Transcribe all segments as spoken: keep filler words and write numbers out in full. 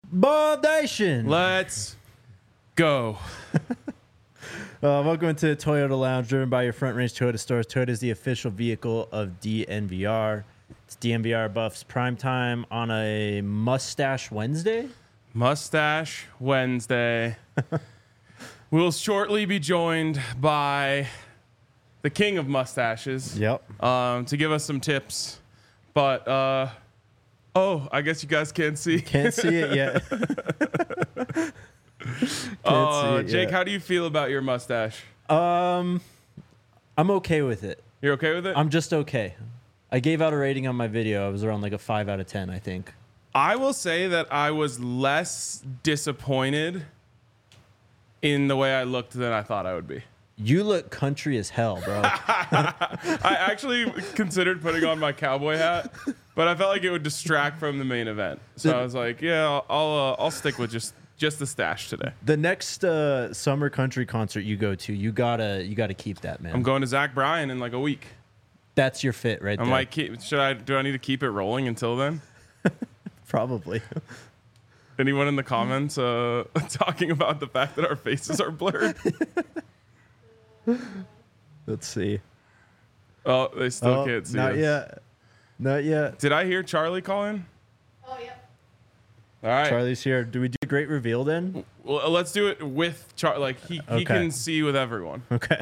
Ball Nation. Let's go. Uh, welcome to Toyota Lounge, driven by your Front Range Toyota stores. Toyota is the official vehicle of D N V R. It's D N V R Buffs prime time on a Mustache Wednesday. Mustache Wednesday. We'll shortly be joined by the king of mustaches. Yep. Um, to give us some tips. But, uh, oh, I guess you guys can't see. Can't see it yet. Oh, it Jake, yet. how do you feel about your mustache? Um, I'm okay with it. You're okay with it? I'm just okay. I gave out a rating on my video. I was around like a five out of ten, I think. I will say that I was less disappointed in the way I looked than I thought I would be. You look country as hell, bro. I actually considered putting on my cowboy hat, but I felt like it would distract from the main event. So I was like, yeah, I'll I'll, uh, I'll stick with just just the stash today. The next uh, summer country concert you go to, you gotta you gotta keep that, man. I'm going to Zach Bryan in like a week. That's your fit right I there. might keep. Should I? Do I need to keep it rolling until then? Probably. Anyone in the comments uh, talking about the fact that our faces are blurred? Let's see. Oh, they still Oh, can't see not us. yet. Not yet. Did I hear Charlie call in? Oh, yep. All right. Charlie's here. Do we do a great reveal then? Well, let's do it with Charlie. Like he, Okay. he can see with everyone. Okay.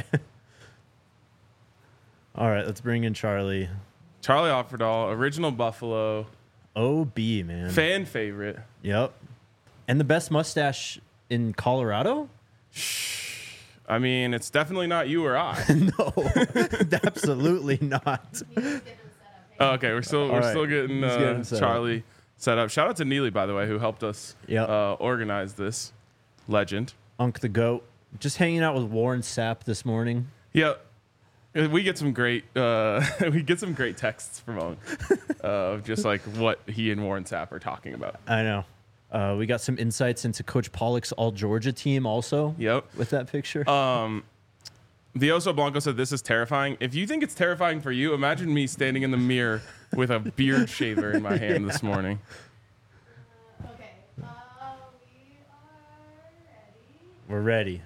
All right, let's bring in Charlie. Charlie Offerdahl, original Buffalo, O B, man. fan favorite. Yep. And the best mustache in Colorado? I mean, it's definitely not you or I. No, absolutely not. Oh, okay, we're still we're right. still getting, He's uh, getting set Charlie set up. Shout out to Neely, by the way, who helped us Yep. uh, organize this. Legend. Unk the goat. Just hanging out with Warren Sapp this morning. Yeah, we get some great uh, we get some great texts from Unk uh, of just like what he and Warren Sapp are talking about. I know. Uh, we got some insights into Coach Pollock's All Georgia team also. Yep. With that picture. Um, the Oso Blanco said this is terrifying. If you think it's terrifying for you, imagine me standing in the mirror with a beard shaver in my hand this morning. Uh, okay. Uh, we are ready. We're ready.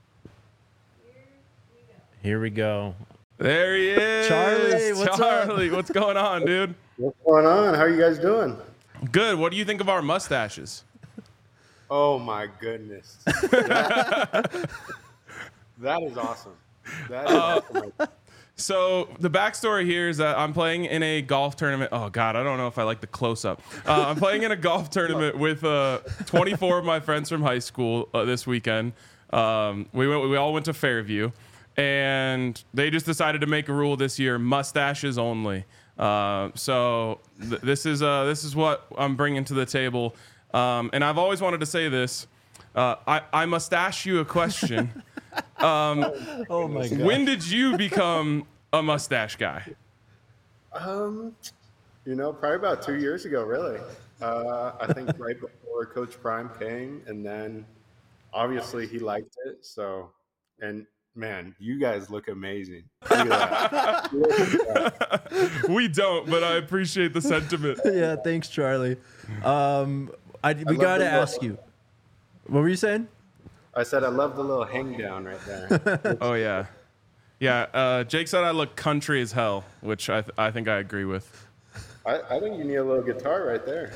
Here we go. Here we go. There he is. Charlie, what's up? Charlie, what's going on, dude? What's going on? How are you guys doing? Good. What do you think of our mustaches? Oh my goodness. That, that is awesome. That is Uh, awesome. So the backstory here is that I'm playing in a golf tournament. Oh God, I don't know if I like the close up. Uh, I'm playing in a golf tournament with uh, twenty-four of my friends from high school uh, this weekend. Um, we went, we all went to Fairview, and they just decided to make a rule this year: mustaches only. Uh, so th- this is uh, this is what I'm bringing to the table, um, and I've always wanted to say this. Uh, I, I must ask you a question. Oh my god. When did you become a mustache guy? Um, you know, probably about two years ago, really. Uh, I think right before Coach Prime came, and then obviously he liked it. So, and man, you guys look amazing. Look at that. Look at that. We don't, but I appreciate the sentiment. Yeah, thanks, Charlie. Um, I, we love got to the ask look. you. What were you saying? I said I love the little hang down right there. Oh yeah, yeah. Uh, Jake said I look country as hell, which I th- I think I agree with. I, I think you need a little guitar right there.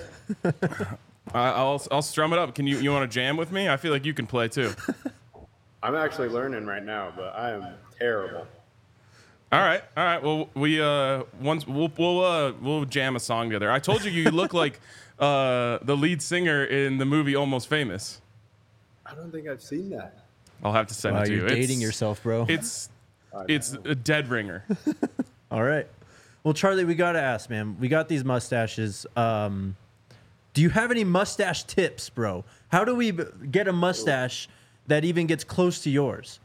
I, I'll I'll strum it up. Can you you want to jam with me? I feel like you can play too. I'm actually learning right now, but I am terrible. All right, all right. Well, we uh once we'll we'll uh we'll jam a song together. I told you you look like uh the lead singer in the movie Almost Famous. I don't think I've seen that. I'll have to send Wow, it to you're you. dating It's- yourself, bro. It's I it's a dead ringer. All right. Well, Charlie, we got to ask, man. We got these mustaches. Um, do you have any mustache tips, bro? How do we b- get a mustache that even gets close to yours?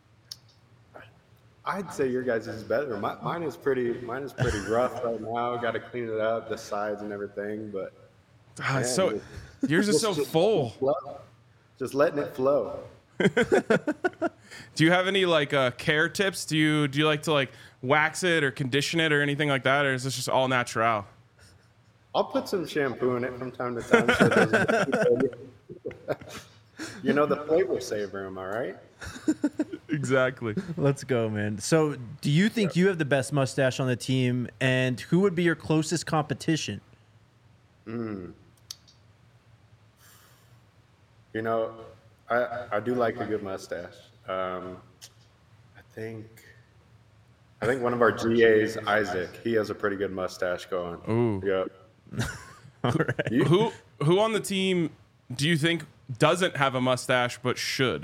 I'd say your guys is better. My, mine is pretty. Mine is pretty rough right now. Got to clean it up, the sides and everything. But Ah, it's man, so just- yours is so just- full. flow. Just letting it flow. Do you have any like uh, care tips? Do you do you like to like wax it or condition it or anything like that, or is this just all natural? I'll put some shampoo in it from time to time so it doesn't. You know, the flavor saver, am I right? Exactly. Let's go, man. So, do you think you have the best mustache on the team, and who would be your closest competition? You know, I I do like a good mustache. Um, I think I think one of our G As, Isaac, he has a pretty good mustache going. Ooh. Yep. All right. You- Who who on the team do you think doesn't have a mustache but should?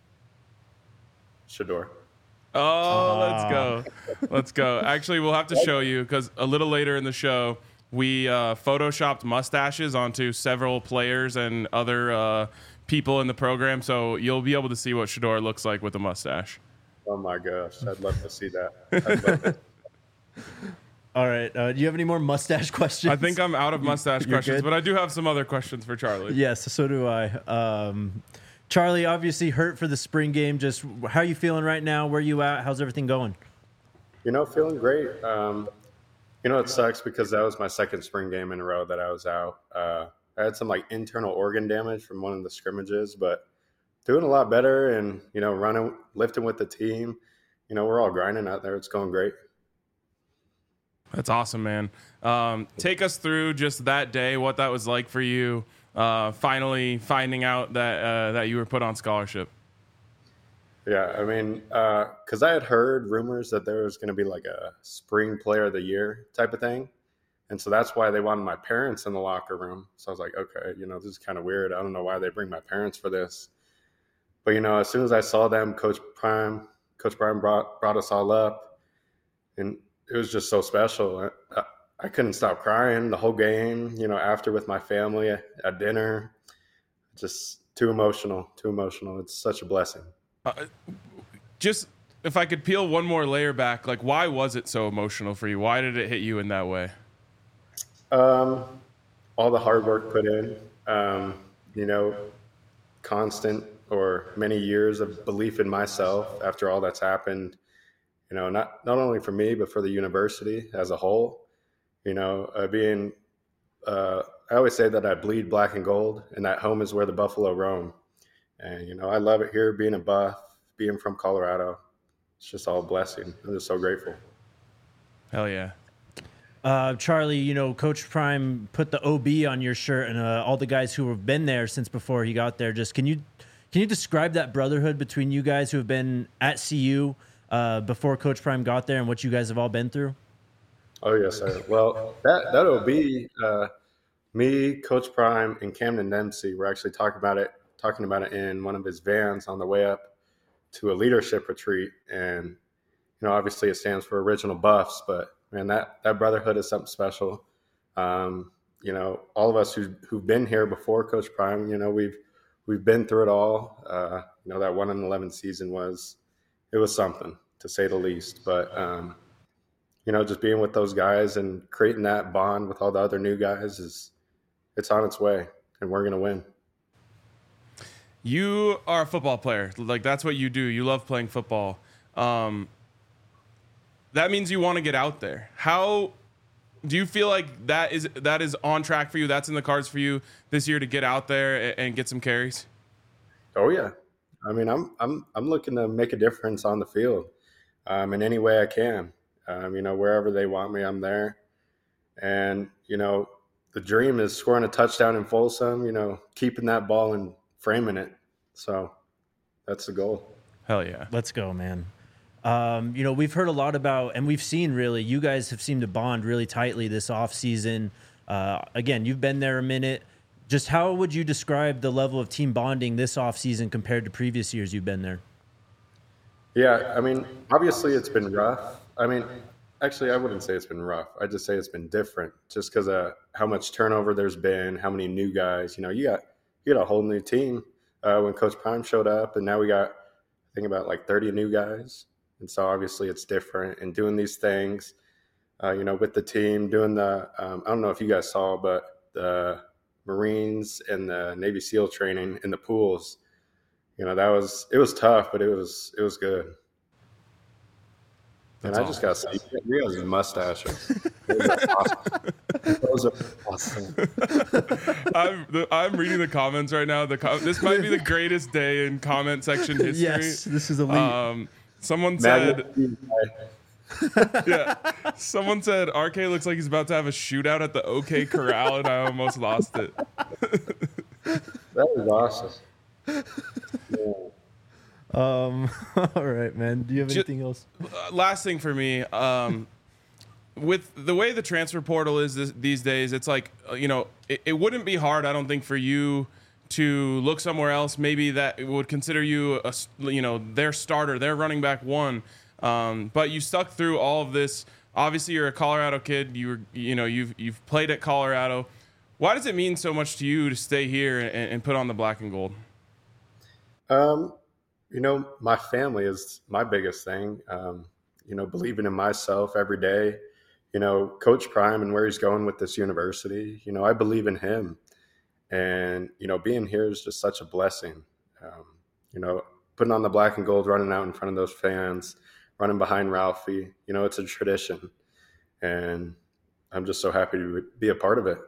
Shador. Oh, let's go. Let's go. Actually, we'll have to show you because a little later in the show, we uh, photoshopped mustaches onto several players and other uh, people in the program. So you'll be able to see what Shador looks like with a mustache. Oh my gosh, I'd love to see that. I'd love to. All right. Uh, do you have any more mustache questions? I think I'm out of mustache You're questions, good? but I do have some other questions for Charlie. Yes, so do I. Um, Charlie, obviously hurt for the spring game. Just how you feeling right now? Where you at? How's everything going? You know, feeling great. Um, you know, it sucks because that was my second spring game in a row that I was out. Uh, I had some like internal organ damage from one of the scrimmages, but doing a lot better and, you know, running, lifting with the team. You know, we're all grinding out there. It's going great. That's awesome, man. Um, take us through just that day, what that was like for you, uh, finally finding out that uh, that you were put on scholarship. Yeah, I mean, because I had heard rumors that there was going to be like a spring player of the year type of thing. And so that's why they wanted my parents in the locker room. So I was like, okay, you know, this is kind of weird. I don't know why they bring my parents for this. But, you know, as soon as I saw them, Coach Prime, Coach Prime brought, brought us all up. And it was just so special. I, I couldn't stop crying the whole game, you know, after with my family at, at dinner. Just too emotional, too emotional. It's such a blessing. Uh, just if I could peel one more layer back, like why was it so emotional for you? Why did it hit you in that way? Um, all the hard work put in, um, you know, constant or many years of belief in myself after all that's happened, you know, not, not only for me, but for the university as a whole, you know, uh, being, uh, I always say that I bleed black and gold and that home is where the buffalo roam. And, you know, I love it here being a Buff, being from Colorado. It's just all a blessing. I'm just so grateful. Hell yeah. Uh, Charlie, you know, Coach Prime put the O B on your shirt, and uh, all the guys who have been there since before he got there. Just can you can you describe that brotherhood between you guys who have been at C U uh, before Coach Prime got there, and what you guys have all been through? Oh yes, sir. Well, that that O B, uh, me, Coach Prime, and Camden Dempsey were actually talking about it, talking about it in one of his vans on the way up to a leadership retreat, and you know, obviously it stands for Original Buffs, but man, that, that brotherhood is something special. Um, you know, all of us who, who've been here before Coach Prime, you know, we've we've been through it all. Uh, you know, that one in eleven season was it was something to say the least. But um, you know, just being with those guys and creating that bond with all the other new guys is it's on its way, and we're gonna win. You are a football player. Like that's what you do. You love playing football. Um, that means you want to get out there. How do you feel like that is that is on track for you? That's in the cards for you this year to get out there and, and get some carries? Oh yeah, I mean, I'm I'm I'm looking to make a difference on the field um, in any way I can. Um, you know, wherever they want me, I'm there. And you know, the dream is scoring a touchdown in Folsom. You know, keeping that ball and framing it. So that's the goal. Hell yeah. Let's go, man. Um, you know, we've heard a lot about, and we've seen really, you guys have seemed to bond really tightly this offseason. Uh, again, you've been there a minute. Just how would you describe the level of team bonding this offseason compared to previous years you've been there? Yeah, I mean, obviously it's been rough. I mean, actually, I wouldn't say it's been rough. I just say it's been different just because of how much turnover there's been, how many new guys. You know, you got you got a whole new team uh, when Coach Prime showed up, and now we got, I think, about like thirty new guys. And so obviously it's different. And doing these things, uh, you know, with the team, doing the, um, I don't know if you guys saw, but the Marines and the Navy SEAL training in the pools, you know, that was, it was tough, but it was, it was good. And That's I just got to say, you guys' mustaches. Those are awesome. Those are awesome. I'm the, I'm reading the comments right now. The com- this might be the greatest day in comment section history. Yes, this is elite. Um, someone said, Magnet, yeah. Someone said R K looks like he's about to have a shootout at the OK Corral, and I almost lost it. that was awesome. Yeah. Um, all right, man. Do you have Ju- anything else? Uh, last thing for me, um, with the way the transfer portal is this, these days, it's like, uh, you know, it, it wouldn't be hard, I don't think, for you to look somewhere else. Maybe that would consider you, a, s- you know, their starter, their running back one. Um, but you stuck through all of this. Obviously, you're a Colorado kid. You were, you know, you've you've played at Colorado. Why does it mean so much to you to stay here and, and put on the black and gold? Um, you know, my family is my biggest thing. Um, you know, believing in myself every day. You know, Coach Prime and where he's going with this university. You know, I believe in him, and you know, being here is just such a blessing. Um, you know, putting on the black and gold, running out in front of those fans, running behind Ralphie. You know, it's a tradition, and I'm just so happy to be a part of it.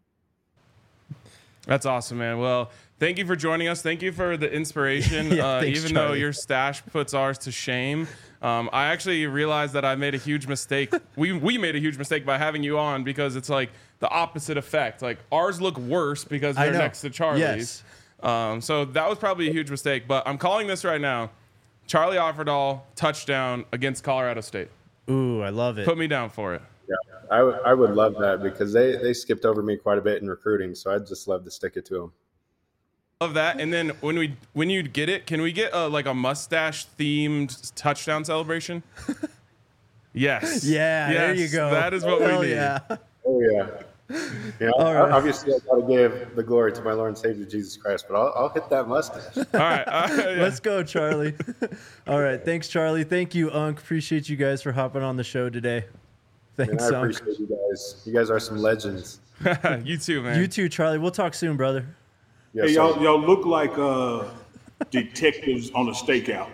That's awesome, man. Well, thank you for joining us. Thank you for the inspiration. Yeah, uh, thanks, even though Charlie. your stash puts ours to shame, um, I actually realized that I made a huge mistake. we we made a huge mistake by having you on because it's like the opposite effect. Like ours look worse because I they're know. next to Charlie's. Yes. Um, so that was probably a huge mistake. But I'm calling this right now. Charlie Offerdahl touchdown against Colorado State. Ooh, I love it. Put me down for it. Yeah, I would I would love that because they, they skipped over me quite a bit in recruiting, so I'd just love to stick it to them. Love that. And then when we when you get it, can we get a, like a mustache themed touchdown celebration? Yes. Yeah, there Yes, you go. That is what Hell we need. yeah. Oh yeah. You know, All right. obviously I got to give the glory to my Lord and Savior Jesus Christ, but I'll, I'll hit that mustache. All right. all right, yeah. Let's go, Charlie. All right. Thanks, Charlie. Thank you, Unc. Appreciate you guys for hopping on the show today. And Thanks, I Unc. appreciate you guys. You guys are some legends. You too, man. You too, Charlie. We'll talk soon, brother. Yes, Hey, y'all, sir. y'all look like uh, detectives on a stakeout.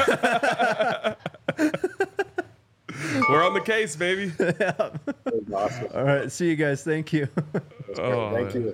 We're on the case, baby. That was awesome. All right. See you guys. Thank you. That's great. Oh, Thank man. you.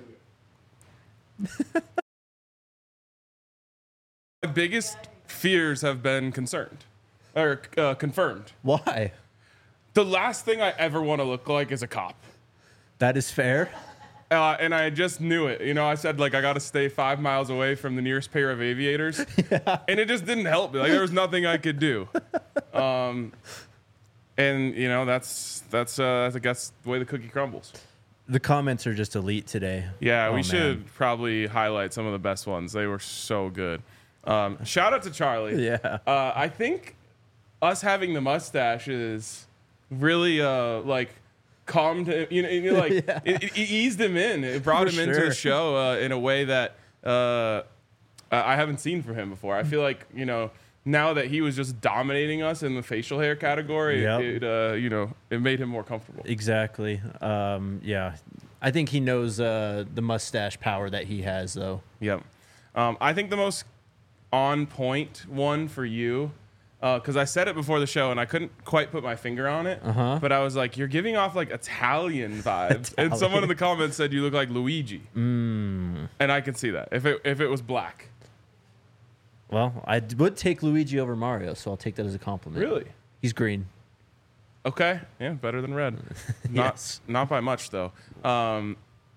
My biggest fears have been concerned or uh, confirmed. Why? The last thing I ever want to look like is a cop. That is fair. Uh, and I just knew it. You know, I said, like, I got to stay five miles away from the nearest pair of aviators. And it just didn't help me. Like, there was nothing I could do. Um, and, you know, that's, that's uh, I guess, the way the cookie crumbles. The comments are just elite today. Yeah, Oh, we man. should probably highlight some of the best ones. They were so good. Um, shout out to Charlie. Yeah. Uh, I think us having the mustaches really, uh, like, calmed him. You know, you know, like Yeah. it, it eased him in. It brought For him into sure. the show uh, in a way that uh, I haven't seen from him before. I feel like, you know, now that he was just dominating us in the facial hair category, Yep. it, uh, you know, it made him more comfortable. Exactly. Um, yeah. I think he knows uh, the mustache power that he has, though. Yep. Um, I think the most on point one for you, because I said it before the show and I couldn't quite put my finger on it, Uh-huh. but I was like, you're giving off like Italian vibes. And someone in the comments said you look like Luigi. Mm. And I can see that if it, if it was black. Well, I d- would take Luigi over Mario, so I'll take that as a compliment. Really? He's green. Okay. Yeah, better than red. Not, Yes. not by much, though. Um,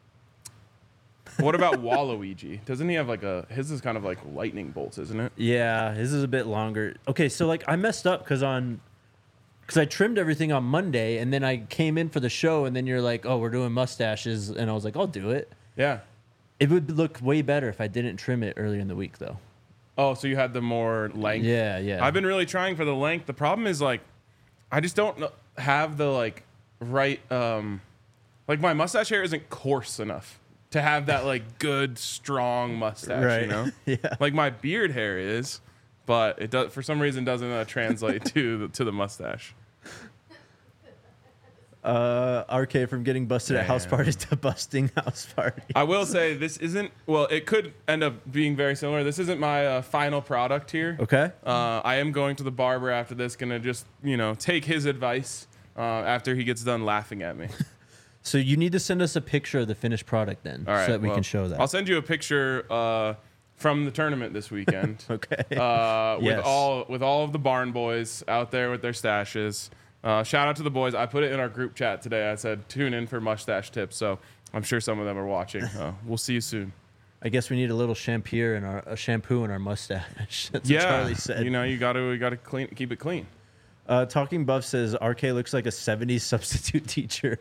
what about Waluigi? Doesn't he have like a, his is kind of like lightning bolts, isn't it? Yeah, his is a bit longer. Okay, so like I messed up because on because I trimmed everything on Monday, and then I came in for the show, and then you're like, "Oh, we're doing mustaches," and I was like, "I'll do it." Yeah. It would look way better if I didn't trim it earlier in the week, though. Oh, so you had the more length. Yeah, yeah. I've been really trying for the length. The problem is like, I just don't kn- have the like right, um, like my mustache hair isn't coarse enough to have that like good strong mustache. Right. You know, Yeah. like my beard hair is, but it does for some reason doesn't uh, translate to the, to the mustache. Uh, R K from getting busted at house Damn. parties to busting house parties. I will say this isn't, well, it could end up being very similar. This isn't my uh, final product here. Okay. Uh, I am going to the barber after this, going to just, you know, take his advice uh, after he gets done laughing at me. So you need to send us a picture of the finished product then, All right. so that we well, can show that. I'll send you a picture uh, from the tournament this weekend. Okay. Uh, with Yes. all with all of the barn boys out there with their stashes. Uh, shout out to the boys. I put it in our group chat today. I said tune in for mustache tips. So I'm sure some of them are watching. Uh, we'll see you soon. I guess we need a little shampoo in our a shampoo in our mustache. That's yeah, what Charlie said. you know you got to you got to clean keep it clean. Uh, Talking Buff says R K looks like a seventies substitute teacher.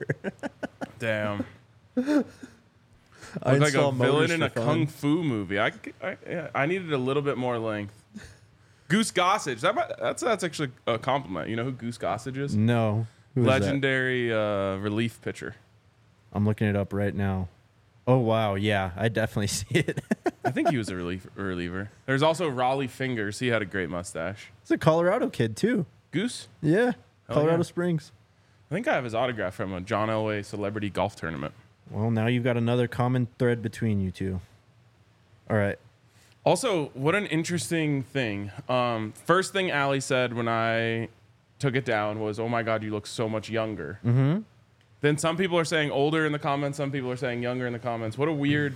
Damn. I Look like a install villain motors in for a fun. kung fu movie. I, I, yeah, I needed a little bit more length. Goose Gossage. That might, that's that's actually a compliment. You know who Goose Gossage is? No. Who is that? Legendary uh, relief pitcher. I'm looking it up right now. Oh wow, yeah, I definitely see it. I think he was a relief, reliever. There's also Raleigh Fingers. He had a great mustache. It's a Colorado kid too. Goose? Yeah, Colorado yeah. Springs. I think I have his autograph from a John Elway celebrity golf tournament. Well, now you've got another common thread between you two. All right. Also, what an interesting thing. Um, first thing Allie said when I took it down was, "Oh my God, you look so much younger." Mm-hmm. Then some people are saying older in the comments. Some people are saying younger in the comments. What a weird.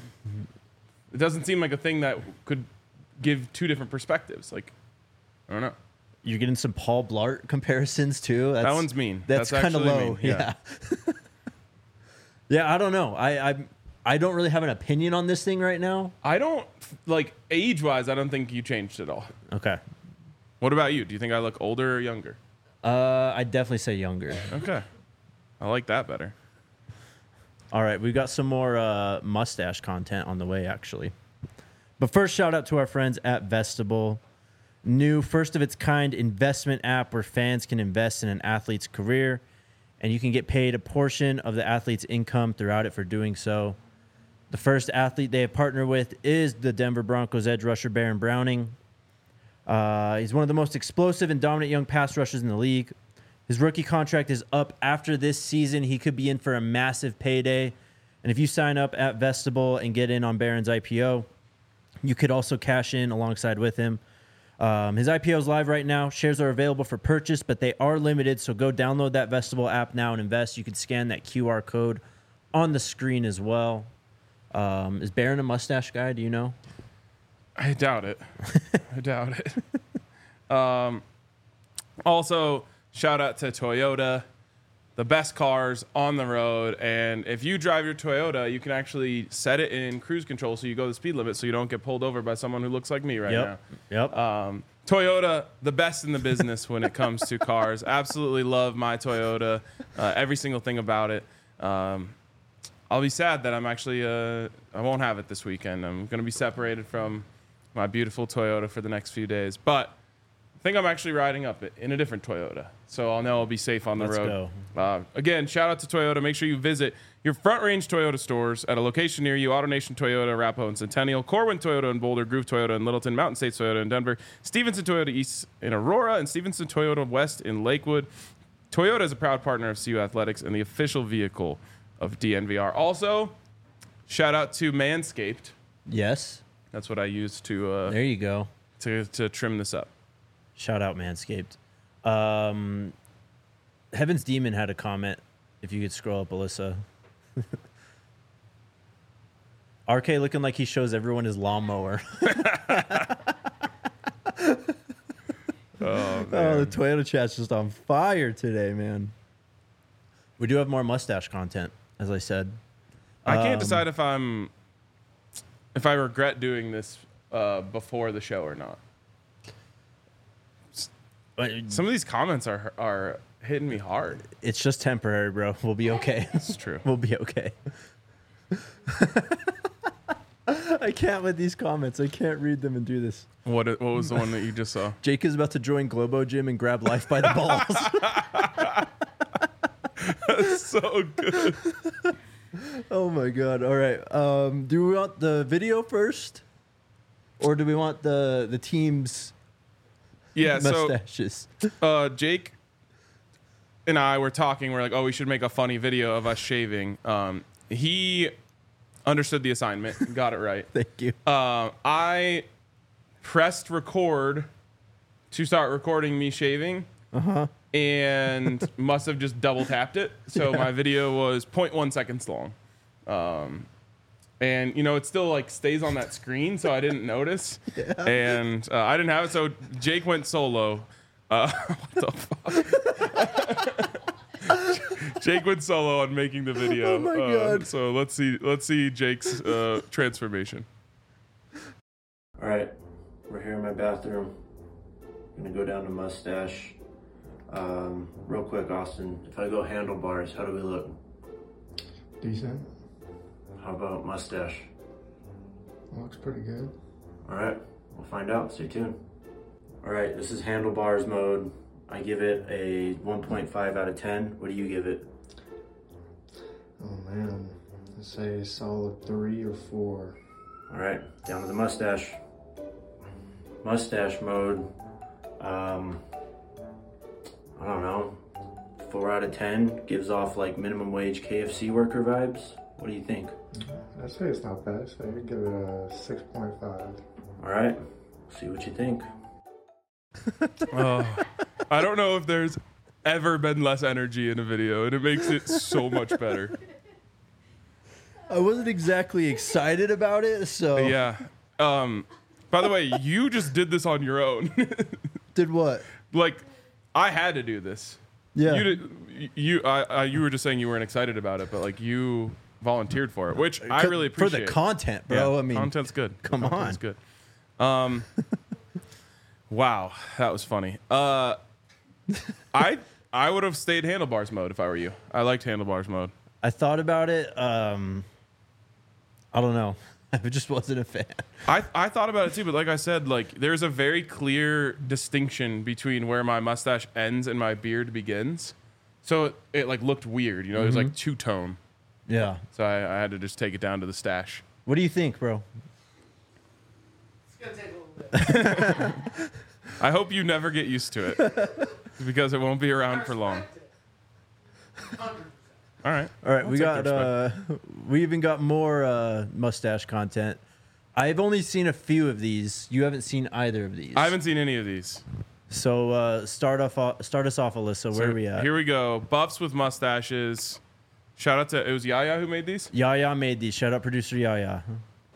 It doesn't seem like a thing that could give two different perspectives. Like, I don't know. You're getting some Paul Blart comparisons too. That's, That one's mean. That's, That's kind of actually low. mean, Yeah. yeah. Yeah, I don't know. I, I I don't really have an opinion on this thing right now. I don't like age wise. I don't think you changed at all. Okay. What about you? Do you think I look older or younger? Uh, I'd definitely say younger. Okay, I like that better. All right, we've got some more uh, mustache content on the way, actually. But first, shout out to our friends at Vestibule. New first of its kind investment app where fans can invest in an athlete's career, and you can get paid a portion of the athlete's income throughout it for doing so. The first athlete they have partnered with is the Denver Broncos edge rusher Baron Browning. Uh, he's one of the most explosive and dominant young pass rushers in the league. His rookie contract is up after this season. He could be in for a massive payday. And if you sign up at Vestibule and get in on Baron's I P O, you could also cash in alongside with him. Um, his I P O is live right now. Shares are available for purchase, but they are limited. So go download that Vestibule app now and invest. You can scan that Q R code on the screen as well. Um, is Baron a mustache guy? Do you know? I doubt it. I doubt it. Um, also, shout out to Toyota, the best cars on the road. And if you drive your Toyota, you can actually set it in cruise control so you go the speed limit so you don't get pulled over by someone who looks like me right Yep. Yep. now. Um, Toyota, the best in the business when it comes to cars. Absolutely love my Toyota, uh, every single thing about it. Um, I'll be sad that I'm actually, uh, I won't have it this weekend. I'm going to be separated from my beautiful Toyota for the next few days. But I think I'm actually riding up it in a different Toyota. So I'll know I'll be safe on the Let's road. Uh, again, shout out to Toyota. Make sure you visit your Front Range Toyota stores at a location near you. AutoNation Toyota, Arapahoe and Centennial, Corwin Toyota in Boulder, Groove Toyota in Littleton, Mountain States Toyota in Denver, Stevenson Toyota East in Aurora, and Stevenson Toyota West in Lakewood. Toyota is a proud partner of C U Athletics and the official vehicle of D N V R. Also, shout out to Manscaped. Yes. That's what I use to uh, There you go. to to trim this up. Shout out Manscaped. Um, Heaven's Demon had a comment. If you could scroll up, Alyssa. R K looking like he shows everyone his lawnmower. Oh, Oh, the Toyota chat's just on fire today, man. We do have more mustache content, as I said. I can't Um, decide if I'm if I regret doing this uh, before the show or not. But Some of these comments are are hitting me hard. it's just temporary, bro. We'll be okay. It's true. We'll be okay. I can't with these comments. I can't read them and do this. What what was the one that you just saw? Jake is about to join Globo Gym and grab life by the balls. That's so good. Oh my god. All right. Um, do we want the video first? Or do we want the the team's Yeah. So mustaches? uh, Jake and I were talking. We're like, oh, we should make a funny video of us shaving. Um, he understood the assignment, got it right. Thank you. Uh, I pressed record to start recording me shaving. Uh-huh. And must have just double tapped it. So yeah. My video was zero point one seconds long. Um, and, you know, it still, like, stays on that screen, so I didn't notice. Yeah. And uh, I didn't have it, so Jake went solo. Uh, what the fuck? Jake went solo on making the video. Oh, my um, God. So let's see, let's see Jake's uh, transformation. All right. We're here in my bathroom. I'm going to go down to mustache. Um, real quick, Austin, if I go handlebars, how do we look? Decent. How about mustache? Looks pretty good. All right, we'll find out. Stay tuned. All right, this is handlebars mode. I give it a one point five out of ten. What do you give it? Oh man, I'd say a solid three or four. All right, down to the mustache. Mustache mode. Um, I don't know. Four out of ten. Gives off like minimum wage K F C worker vibes. What do you think? I'd say it's not bad. So I'd give it a six point five. All right, see what you think. Oh, I don't know if there's ever been less energy in a video, and it makes it so much better. I wasn't exactly excited about it, so Yeah. Um, by the way, you just did this on your own. Did what? Like, I had to do this. Yeah. You did. You. I, I. You were just saying you weren't excited about it, but like you volunteered for it, which I really appreciate. For the content, bro. Yeah, I mean, content's good. Come content's on. good. Um. Wow, that was funny. Uh, I I would have stayed handlebars mode if I were you. I liked handlebars mode. I thought about it. Um, I don't know. I just wasn't a fan. I, I thought about it too, but like I said, like there's a very clear distinction between where my mustache ends and my beard begins. So it, it like looked weird, you know, it was like two tone. Yeah. So I, I had to just take it down to the stash. What do you think, bro? It's gonna take a little bit. I hope you never get used to it because it won't be around for long. All right. All right, I'll we take got the uh, we even got more uh, mustache content. I've only seen a few of these. You haven't seen either of these. I haven't seen any of these. So uh, start off. uh, Start us off, Alyssa. Where So are we at? Here we go. Buffs with mustaches. Shout out to it was Yaya who made these. Yaya made these. Shout out producer Yaya.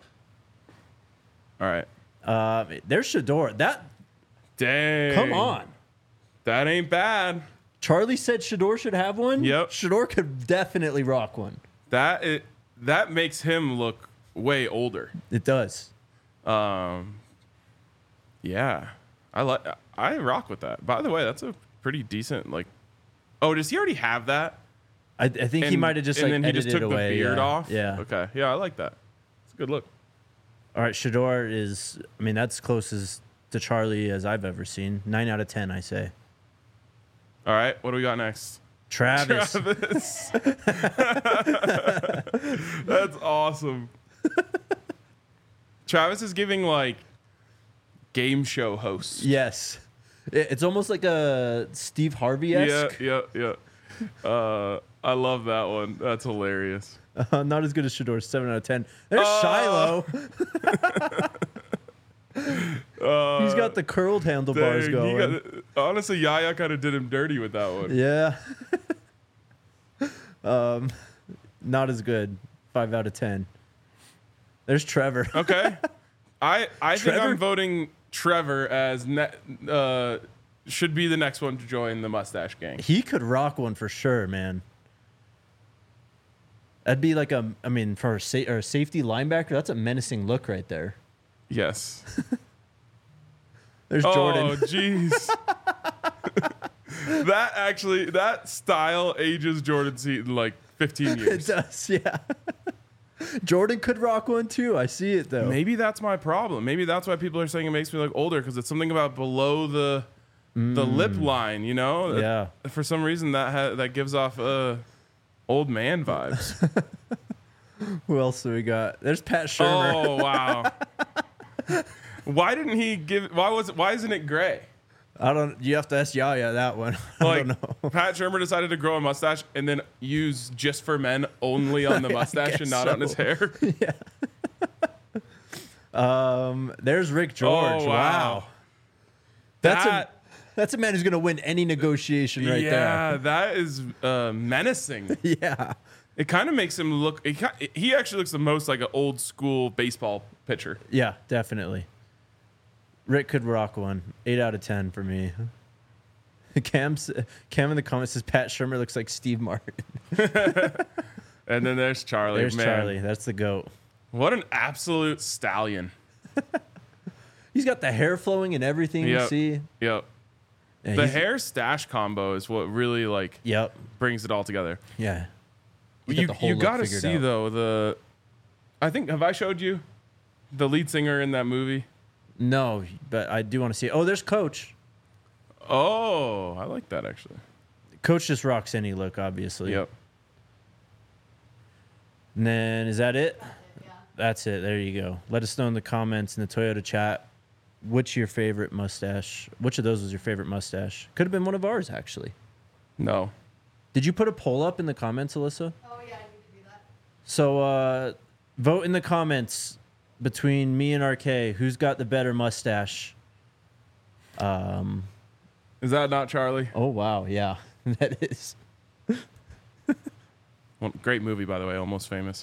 All right. Uh, there's Shador. That Dang. come on. That ain't bad. Charlie said Shador should have one. Yep. Shador could definitely rock one. That it that makes him look way older. It does. Um, yeah, I like I rock with that. By the way, that's a pretty decent like. Oh, does he already have that? I, I think he And- might have just and like then he edited just took it away. the beard yeah. off. Yeah. Okay. Yeah, I like that. It's a good look. All right, Shador is. I mean, that's closest to Charlie as I've ever seen. Nine out of ten, I say. All right. What do we got next? Travis. Travis. That's awesome. Travis is giving like game show hosts. Yes. It- It's almost like a Steve Harvey esque. Yeah, yeah, yeah. Uh, I love that one. That's hilarious. Uh, not as good as Shador. Seven out of ten. There's Uh, Shiloh. Uh, He's got the curled handlebars dang, going. he got- honestly, Yaya kind of did him dirty with that one. Yeah. um, not as good. Five out of ten. There's Trevor. Okay. I I think Trevor? I'm voting Trevor as ne- uh, should be the next one to join the mustache gang. He could rock one for sure, man. That'd be like a, I mean, for a, sa- or a safety linebacker, that's a menacing look right there. Yes. There's Oh, Jordan. jeez. That actually, that style ages Jordan Seaton like fifteen It years. does, yeah. Jordan could rock one too. I see it though. Maybe that's my problem. Maybe that's why people are saying it makes me look older because it's something about below the the lip line, you know? Yeah. For some reason, that ha- that gives off uh, old man vibes. Who else do we got? There's Pat Shermer. Oh wow! Why didn't he give? Why was it? Why isn't it gray? I don't. You have to ask Yaya that one. I Like don't know. Pat Shurmur decided to grow a mustache and then use Just for Men only on the mustache and guess not so. on his hair. Um, there's Rick George. Oh, wow. wow. That's a That- that's a man who's gonna win any negotiation right yeah, that is uh, menacing. there. Yeah. It kind of makes him look. He, ki- he actually looks the most like an old school baseball pitcher. Yeah, definitely. Rick could rock one. Eight out of ten for me. Cam's, Cam in the comments says Pat Shurmur looks like Steve Martin. And then there's Charlie. There's Man, Charlie. That's the goat. what an absolute stallion. He's got the hair flowing and everything you Yep. see. Yep. Yeah, The he's- hair stash combo is what really like Yep. brings it all together. Yeah. He's got You the whole you look gotta figured see out. though the. I think have I showed you the lead singer in that movie? No, but I do want to see it. Oh, there's Coach. Oh, I like that actually. Coach just rocks any look, obviously. Yep. And then is that it? Yeah. That's it. There you go. Let us know in the comments in the Toyota chat which your favorite mustache. Which of those was your favorite mustache? Could have been one of ours, actually. No. Did you put a poll up in the comments, Alyssa? Oh yeah, I need to do that. So uh, vote in the comments between me and R K. Who's got the better mustache? Um. Is that not Charlie? Oh wow, yeah, that is. Well, great movie, by the way. Almost Famous.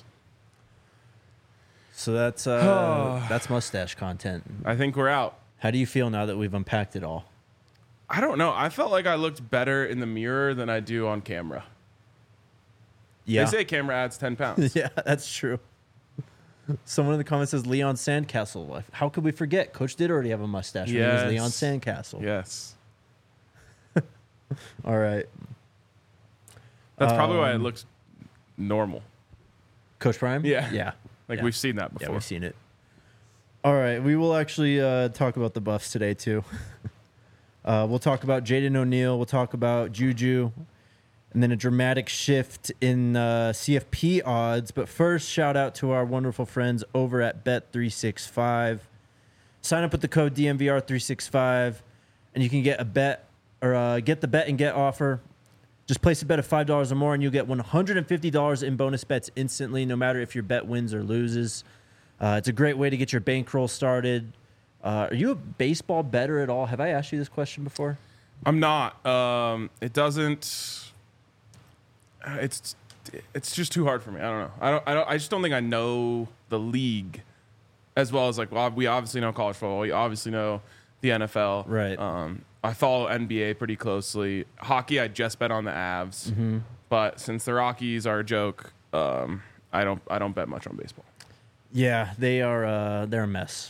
So that's uh, that's mustache content. I think we're out. How do you feel now that we've unpacked it all? I don't know. I felt like I looked better in the mirror than I do on camera. Yeah, They say camera adds ten pounds. yeah, that's true. Someone in the comments says Leon Sandcastle. How could we forget? Coach did already have a mustache. When Yes. he was Leon Sandcastle. Yes. All right, That's probably why it Um, looks normal. Coach Prime. Yeah. yeah. Like yeah. we've seen that Yeah, before. we've seen it. All right, we will actually uh, talk about the Buffs today too. uh, we'll talk about Jaden O'Neal. We'll talk about Juju, and then a dramatic shift in uh, C F P odds. But first, shout out to our wonderful friends over at Bet three sixty-five. Sign up with the code D M V R three sixty-five, and you can get a bet or uh, get the bet and get offer. Just place a bet of five dollars or more, and you'll get one hundred fifty dollars in bonus bets instantly, no matter if your bet wins or loses. Uh, it's a great way to get your bankroll started. Uh, are you a baseball bettor at all? Have I asked you this question before? I'm not. Um, it doesn't. It's it's just too hard for me. I don't know. I don't. I don't. I just don't think I know the league as well as like. Well, we obviously know college football. We obviously know the N F L. Right. Um, I follow N B A pretty closely. Hockey, I just bet on the Avs. Mm-hmm. But since the Rockies are a joke, um, I don't. I don't bet much on baseball. Yeah, they are. Uh, they're a mess.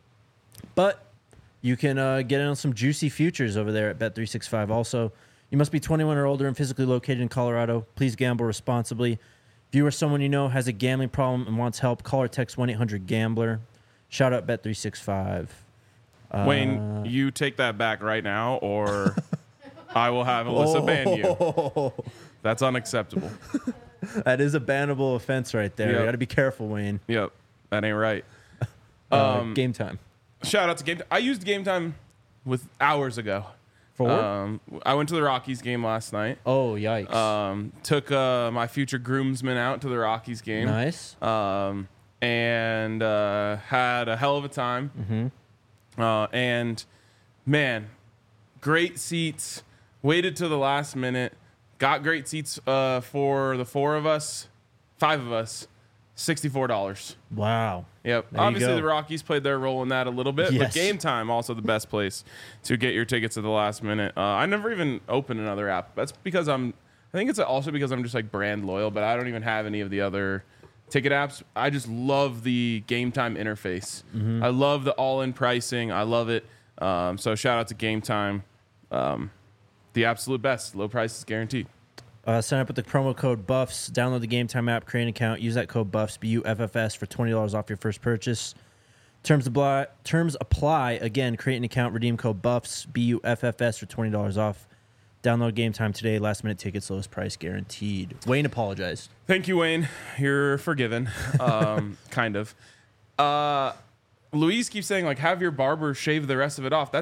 But you can uh, get in on some juicy futures over there at Bet three sixty-five. Also, you must be twenty-one or older and physically located in Colorado. Please gamble responsibly. If you or someone you know has a gambling problem and wants help, call or text one eight hundred gambler. Shout out Bet three sixty-five. Uh, Wayne, you take that back right now, or I will have Alyssa ban you. That's unacceptable. That is a bannable offense right there. Yep. You got to be careful, Wayne. Yep, that ain't right. Uh, Um, game time. Shout out to Game Time. I used Game Time with hours ago. For what? Um, I went to the Rockies game last night. Oh, yikes. Um, took uh, my future groomsmen out to the Rockies game. Nice. Um, and uh, had a hell of a time. Mm-hmm. Uh, and man, great seats. Waited till the last minute. Got great seats uh, for the four of us, five of us. sixty-four dollars. Wow. Yep. There you Obviously, go. the Rockies played their role in that a little bit, but Yes. Game Time also the best place to get your tickets at the last minute. Uh, I never even opened another app. That's because I'm. I think it's also because I'm just like brand loyal, but I don't even have any of the other ticket apps. I just love the Game Time interface. Mm-hmm. I love the all-in pricing. I love it. Um, so shout out to Game Time. Um, the absolute best. Low prices guaranteed. Uh, sign up with the promo code BUFFS. Download the Game Time app, create an account, use that code BUFFS, B U F F S, for twenty dollars off your first purchase. Terms apply. Terms apply. Again, create an account, redeem code BUFFS, B U F F S, for twenty dollars off. Download Game Time today. Last minute tickets, lowest price guaranteed. Wayne apologized. Thank you, Wayne. You're forgiven. Um, kind of. Uh, Louise keeps saying, like, have your barber shave the rest of it off. That's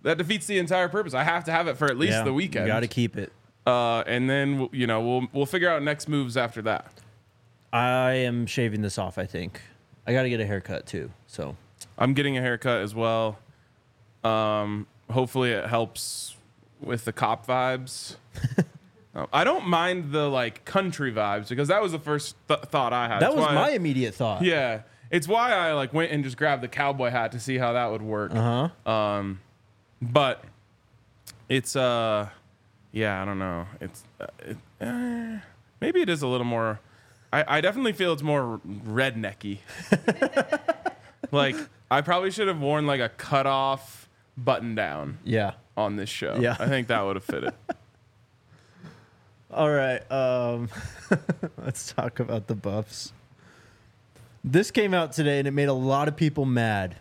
that defeats the entire purpose. I have to have it for at least Yeah, the weekend. You got to keep it. Uh, and then you know we'll we'll figure out next moves after that. I am shaving this off. I think I got to get a haircut too. So I'm getting a haircut as well. Um, hopefully it helps with the cop vibes. um, I don't mind the like country vibes because that was the first th- thought I had. that It's was why my I- immediate thought. yeah. It's why I like went and just grabbed the cowboy hat to see how that would work. Uh huh. Um, but it's uh, yeah, I don't know. It's uh, it, uh, maybe it is a little more. I, I definitely feel it's more rednecky. Like I probably should have worn like a cut off button down Yeah. on this show. Yeah. I think that would have fit it. All right. Um, let's talk about the Buffs. This came out today and it made a lot of people mad.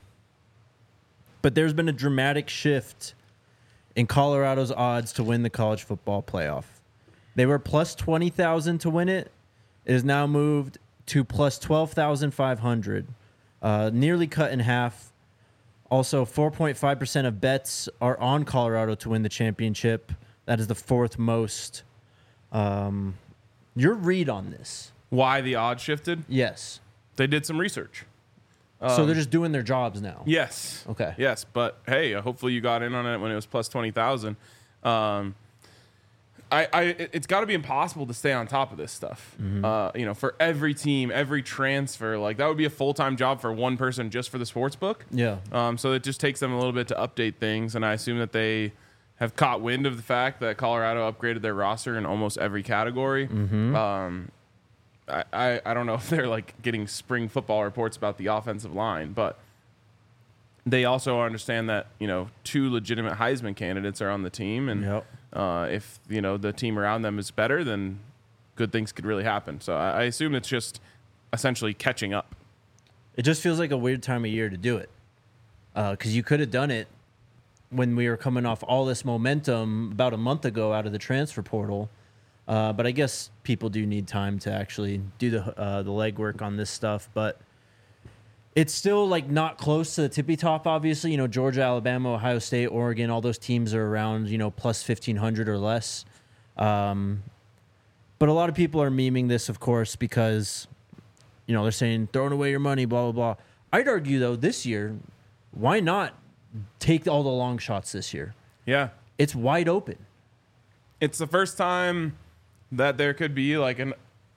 But there's been a dramatic shift in Colorado's odds to win the college football playoff. They were plus twenty thousand to win it. It has now moved to plus twelve thousand five hundred, uh, nearly cut in half. Also, four point five percent of bets are on Colorado to win the championship. That is the fourth most. Um, your read on this? Why the odds shifted? Yes. They did some research. So they're just doing their jobs now. Yes. Okay. Yes, but hey, uh, hopefully you got in on it when it was plus twenty thousand. Um, I, I, it- it's got to be impossible to stay on top of this stuff. Uh, you know, for every team, every transfer, like that would be a full time job for one person just for the sports book. Yeah. Um, so it just takes them a little bit to update things, and I assume that they have caught wind of the fact that Colorado upgraded their roster in almost every category. Um, I, I, I don't know if they're like getting spring football reports about the offensive line, but they also understand that, you know, two legitimate Heisman candidates are on the team, and Yep. uh, if, you know, the team around them is better, then good things could really happen. So I, I assume it's just essentially catching up. It just feels like a weird time of year to do it. Because you could have done it when we were coming off all this momentum about a month ago out of the transfer portal. Uh, but I guess people do need time to actually do the uh, the legwork on this stuff. But it's still like not close to the tippy top, obviously. You know, Georgia, Alabama, Ohio State, Oregon, all those teams are around, you know, plus fifteen hundred or less. Um, but a lot of people are memeing this, of course, because, you know, they're saying throwing away your money, blah, blah, blah. I'd argue, though, this year, why not take all the long shots this year? Yeah. It's wide open. It's the first time that there could be like an,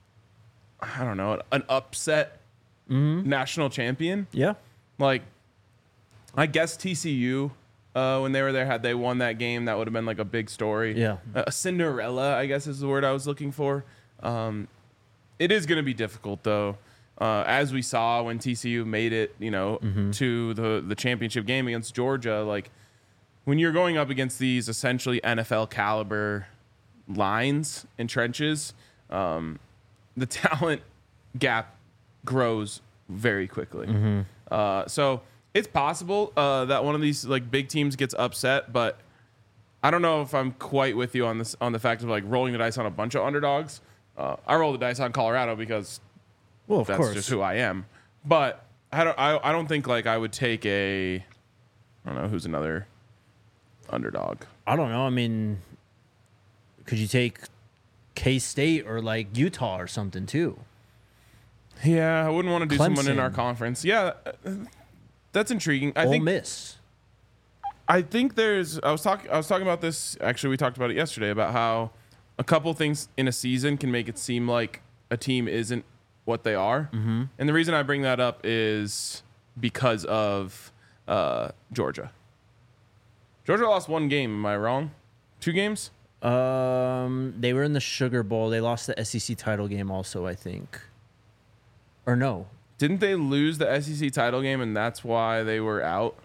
I don't know, an upset national champion. Yeah. Like, I guess T C U, uh, when they were there, had they won that game, that would have been like a big story. Yeah. A Cinderella, I guess is the word I was looking for. Um, it is going to be difficult, though. Uh, as we saw when T C U made it, you know, to the, the championship game against Georgia, like, when you're going up against these essentially N F L caliber lines and trenches, um, the talent gap grows very quickly. Uh, so it's possible uh, that one of these like big teams gets upset, but I don't know if I'm quite with you on this on the fact of like rolling the dice on a bunch of underdogs. Uh, I roll the dice on Colorado because Well, of that's course. just who I am. But I don't. I, I don't think like I would take a. I don't know who's another underdog. I don't know. I mean, could you take K-State or like Utah or something too? Yeah, I wouldn't want to do someone in Clemson. our conference. Yeah, uh, that's intriguing. I Ole think. Miss. I think there's. I was talking. I was talking about this. Actually, we talked about it yesterday about how a couple things in a season can make it seem like a team isn't what they are. Mm-hmm. And the reason I bring that up is because of uh, Georgia. Georgia lost one game. Am I wrong? Two games? Um, they were in the Sugar Bowl. They lost the S E C title game also, I think. Or no. Didn't they lose the S E C title game and that's why they were out?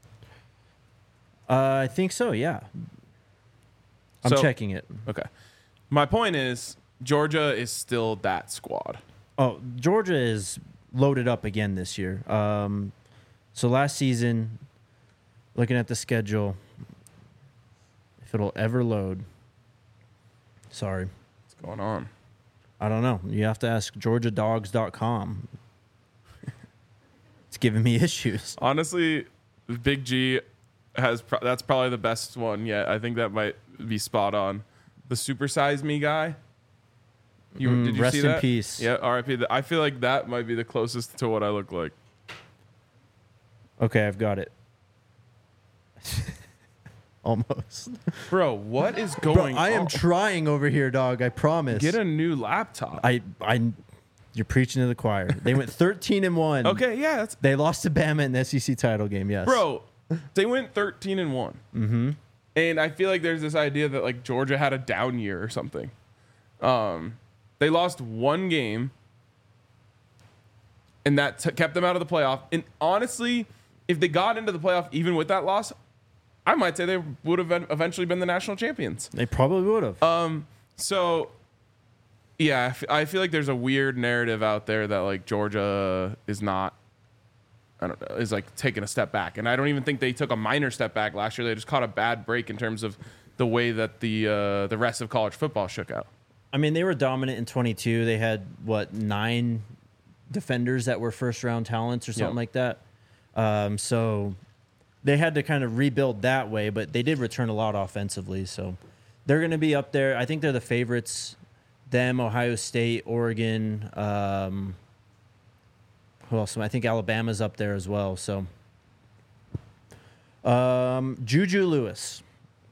Uh, I think so, yeah. I'm So- checking it. Okay. My point is Georgia is still that squad. Oh, Georgia is loaded up again this year. Um, so last season, looking at the schedule, if it'll ever load, sorry, What's going on? I don't know. You have to ask georgia dogs dot com. It's giving me issues. Honestly, Big G, has pro- that's probably the best one yet. I think that might be spot on. The Super Size Me guy. You Mm, did you rest see in that? peace. Yeah, R I P. I feel like that might be the closest to what I look like. Okay, I've got it. Almost. Bro, what is Bro, going I am on? trying over here, dog. I promise. Get a new laptop. I, I, you're preaching to the choir. They went thirteen and one. okay, yeah, that's They lost to Bama in the S E C title game. Yes, bro. They went thirteen and one. Mm-hmm. And I feel like there's this idea that like Georgia had a down year or something. Um, they lost one game, and that t- kept them out of the playoff. And honestly, if they got into the playoff even with that loss, I might say they would have eventually been the national champions. They probably would have. Um, so yeah, I, f- I feel like there's a weird narrative out there that like Georgia is not, I don't know, is like taking a step back. And I don't even think they took a minor step back last year. They just caught a bad break in terms of the way that the uh, the rest of college football shook out. I mean, they were dominant in twenty-two. They had what nine defenders that were first round talents or something Yeah. like that. Um, so they had to kind of rebuild that way, but they did return a lot offensively. So they're going to be up there. I think they're the favorites. Them, Ohio State, Oregon. Um, who else? I think Alabama's up there as well. So um, Juju Lewis.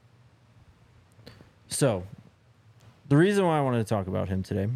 So the reason why I wanted to talk about him today.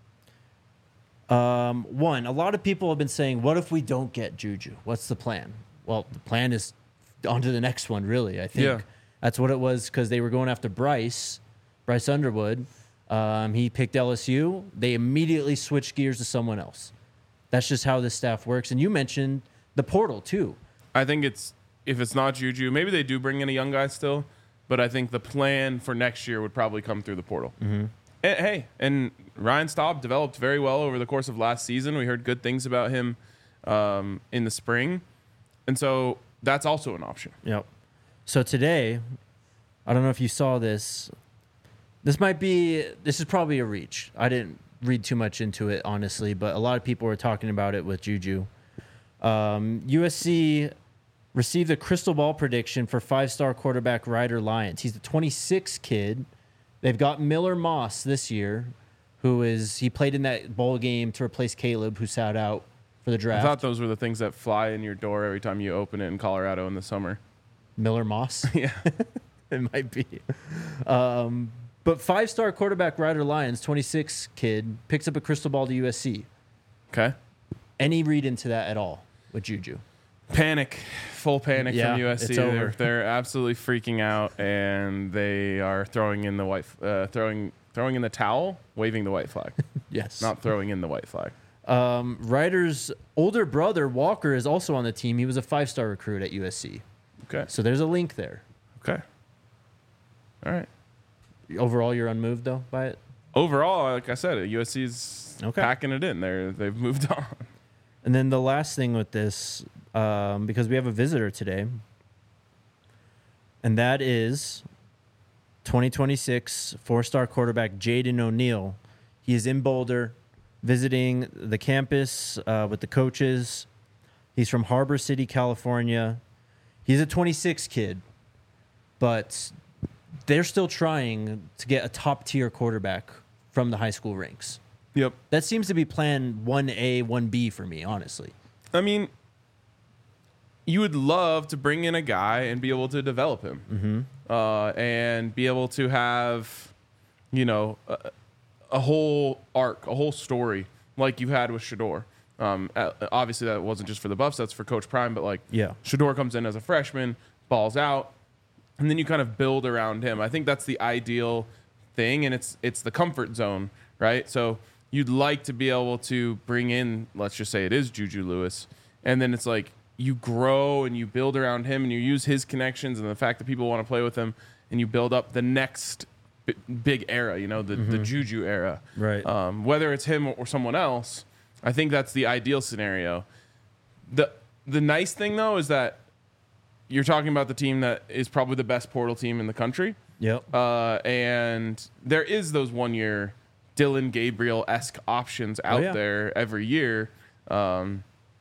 Um, one, a lot of people have been saying, what if we don't get Juju? What's the plan? Well, the plan is on to the next one, really. I think Yeah. that's what it was because they were going after Bryce, Bryce Underwood. Um, he picked L S U. They immediately switched gears to someone else. That's just how this staff works. And you mentioned the portal, too. I think it's, if it's not Juju, maybe they do bring in a young guy still, but I think the plan for next year would probably come through the portal. Mm-hmm. And, hey, and Ryan Staub developed very well over the course of last season. We heard good things about him um, in the spring. And so that's also an option. Yep. So today, I don't know if you saw this. This might be, this is probably a reach. I didn't read too much into it, honestly, but a lot of people were talking about it with Juju. Um, U S C received a crystal ball prediction for five-star quarterback Ryder Lyons. He's the twenty-sixth kid. They've got Miller Moss this year, who is, he played in that bowl game to replace Caleb, who sat out for the I draft. thought those were the things that fly in your door every time you open it in Colorado in the summer. Miller Moss? Yeah. It might be. Um, but five-star quarterback Ryder Lyons, twenty-six kid, picks up a crystal ball to U S C. Okay. Any read into that at all with Juju? Panic, full panic Yeah, from U S C. it's They're, over. they're absolutely freaking out, and they are throwing in the white, uh, throwing throwing in the towel, waving the white flag, Yes. not throwing in the white flag. Um, Ryder's older brother, Walker, is also on the team. He was a five-star recruit at U S C. Okay. So there's a link there. Okay. All right. Overall, you're unmoved, though, by it? Overall, like I said, U S C's Okay. packing it in. They're they've moved on. And then the last thing with this, um, because we have a visitor today, and that is twenty twenty-six four-star quarterback Jaden O'Neal. He is in Boulder, visiting the campus uh, with the coaches. He's from Harbor City, California. He's a twenty-six kid, but they're still trying to get a top-tier quarterback from the high school ranks. Yep. That seems to be plan one A, one B for me, honestly. I mean, you would love to bring in a guy and be able to develop him, mm-hmm. uh, and be able to have, you know, a, a whole arc, a whole story like you had with Shedeur. Um, uh, obviously, that wasn't just for the Buffs; that's for Coach Prime. But like, Yeah. Shedeur comes in as a freshman, balls out, and then you kind of build around him. I think that's the ideal thing, and it's it's the comfort zone, right? So you'd like to be able to bring in, let's just say it is Juju Lewis, and then it's like you grow and you build around him and you use his connections and the fact that people want to play with him, and you build up the next b- big era, you know, the, the Juju era. Right. Um, whether it's him or someone else, I think that's the ideal scenario. The the nice thing, though, is that you're talking about the team that is probably the best portal team in the country. Yep. Uh, and there is those one-year Dylan Gabriel-esque options out yeah. there every year. Um,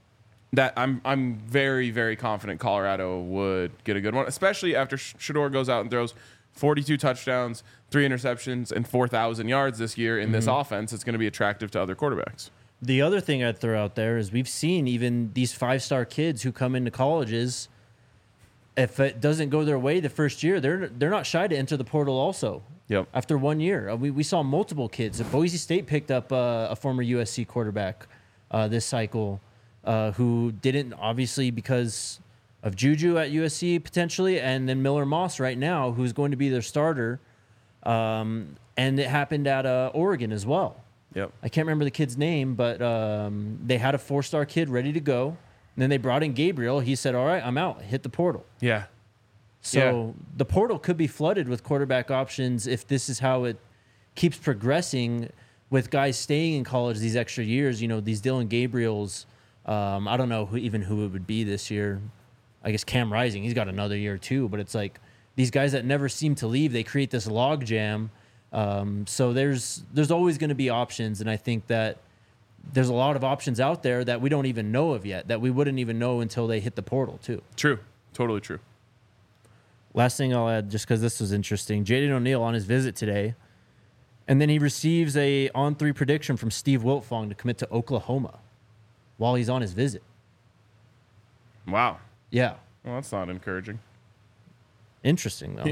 that I'm I'm very very confident Colorado would get a good one, especially after Shedeur goes out and throws forty-two touchdowns, three interceptions, and four thousand yards this year in mm-hmm. this offense. It's going to be attractive to other quarterbacks. The other thing I'd throw out there is we've seen even these five-star kids who come into colleges, if it doesn't go their way the first year, they're they're not shy to enter the portal also. Yep. After one year. We, we saw multiple kids. Boise State picked up uh, a former U S C quarterback uh, this cycle uh, who didn't, obviously, because of Juju at U S C potentially, and then Miller Moss right now, who's going to be their starter. Um, and it happened at uh, Oregon as well. Yep. I can't remember the kid's name, but um, they had a four-star kid ready to go. And then they brought in Gabriel. He said, all right, I'm out. Hit the portal. Yeah. So yeah. the portal could be flooded with quarterback options if this is how it keeps progressing with guys staying in college these extra years. You know, these Dylan Gabriels, um, I don't know who, even who it would be this year. I guess Cam Rising, he's got another year too. But it's like these guys that never seem to leave, they create this log jam. Um, so there's there's always going to be options, and I think that there's a lot of options out there that we don't even know of yet, that we wouldn't even know until they hit the portal too. True. Totally true. Last thing I'll add, just because this was interesting, Jaden O'Neal on his visit today, and then he receives a on three prediction from Steve Wiltfong to commit to Oklahoma while he's on his visit. Wow. Yeah. Well, that's not encouraging. Interesting, though. Yeah.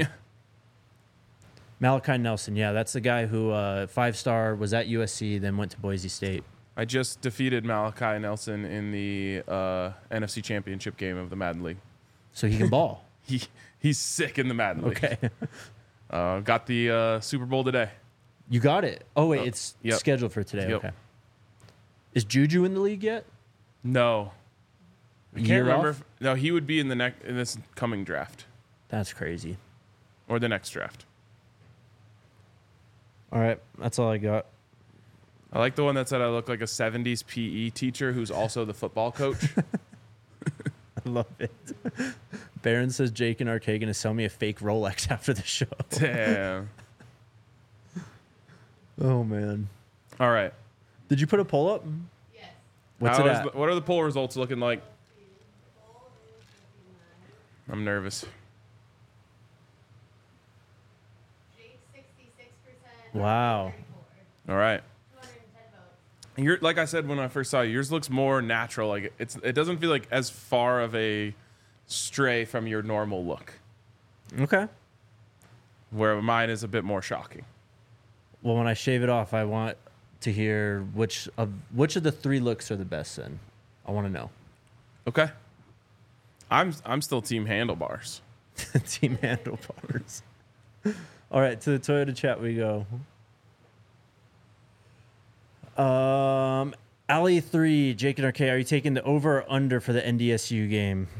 Malachi Nelson, yeah, that's the guy who uh, five-star was at U S C, then went to Boise State. I just defeated Malachi Nelson in the uh, N F C Championship game of the Madden League. So he can ball. he He's sick in the Madden League. Okay. uh, got the uh, Super Bowl today. You got it? Oh, wait, Uh, it's yep. scheduled for today. Yep. Okay. Is Juju in the league yet? No. I can't Year remember. off? If, no, he would be in the next in this coming draft That's crazy. or the next draft. All right, that's all I got. I like the one that said I look like a seventies P E teacher who's also the football coach. I love it. Barron says Jake and R K going to sell me a fake Rolex after the show. Damn. Oh, man. All right. Did you put a poll up? Yes. What's How it is at? the- what are the poll results looking like? I'm nervous. Jake sixty-six percent. Wow. All right. two hundred ten votes. You're like I said when I first saw you, yours looks more natural. Like it's it doesn't feel like as far of a stray from your normal look. Okay. Where mine is a bit more shocking. Well, when I shave it off, I want to hear which of which of the three looks are the best then. I want to know. Okay. I'm I'm still team handlebars. Team handlebars. All right, to the Toyota chat we go. Um, Alley three, Jake and R K, are you taking the over or under for the N D S U game?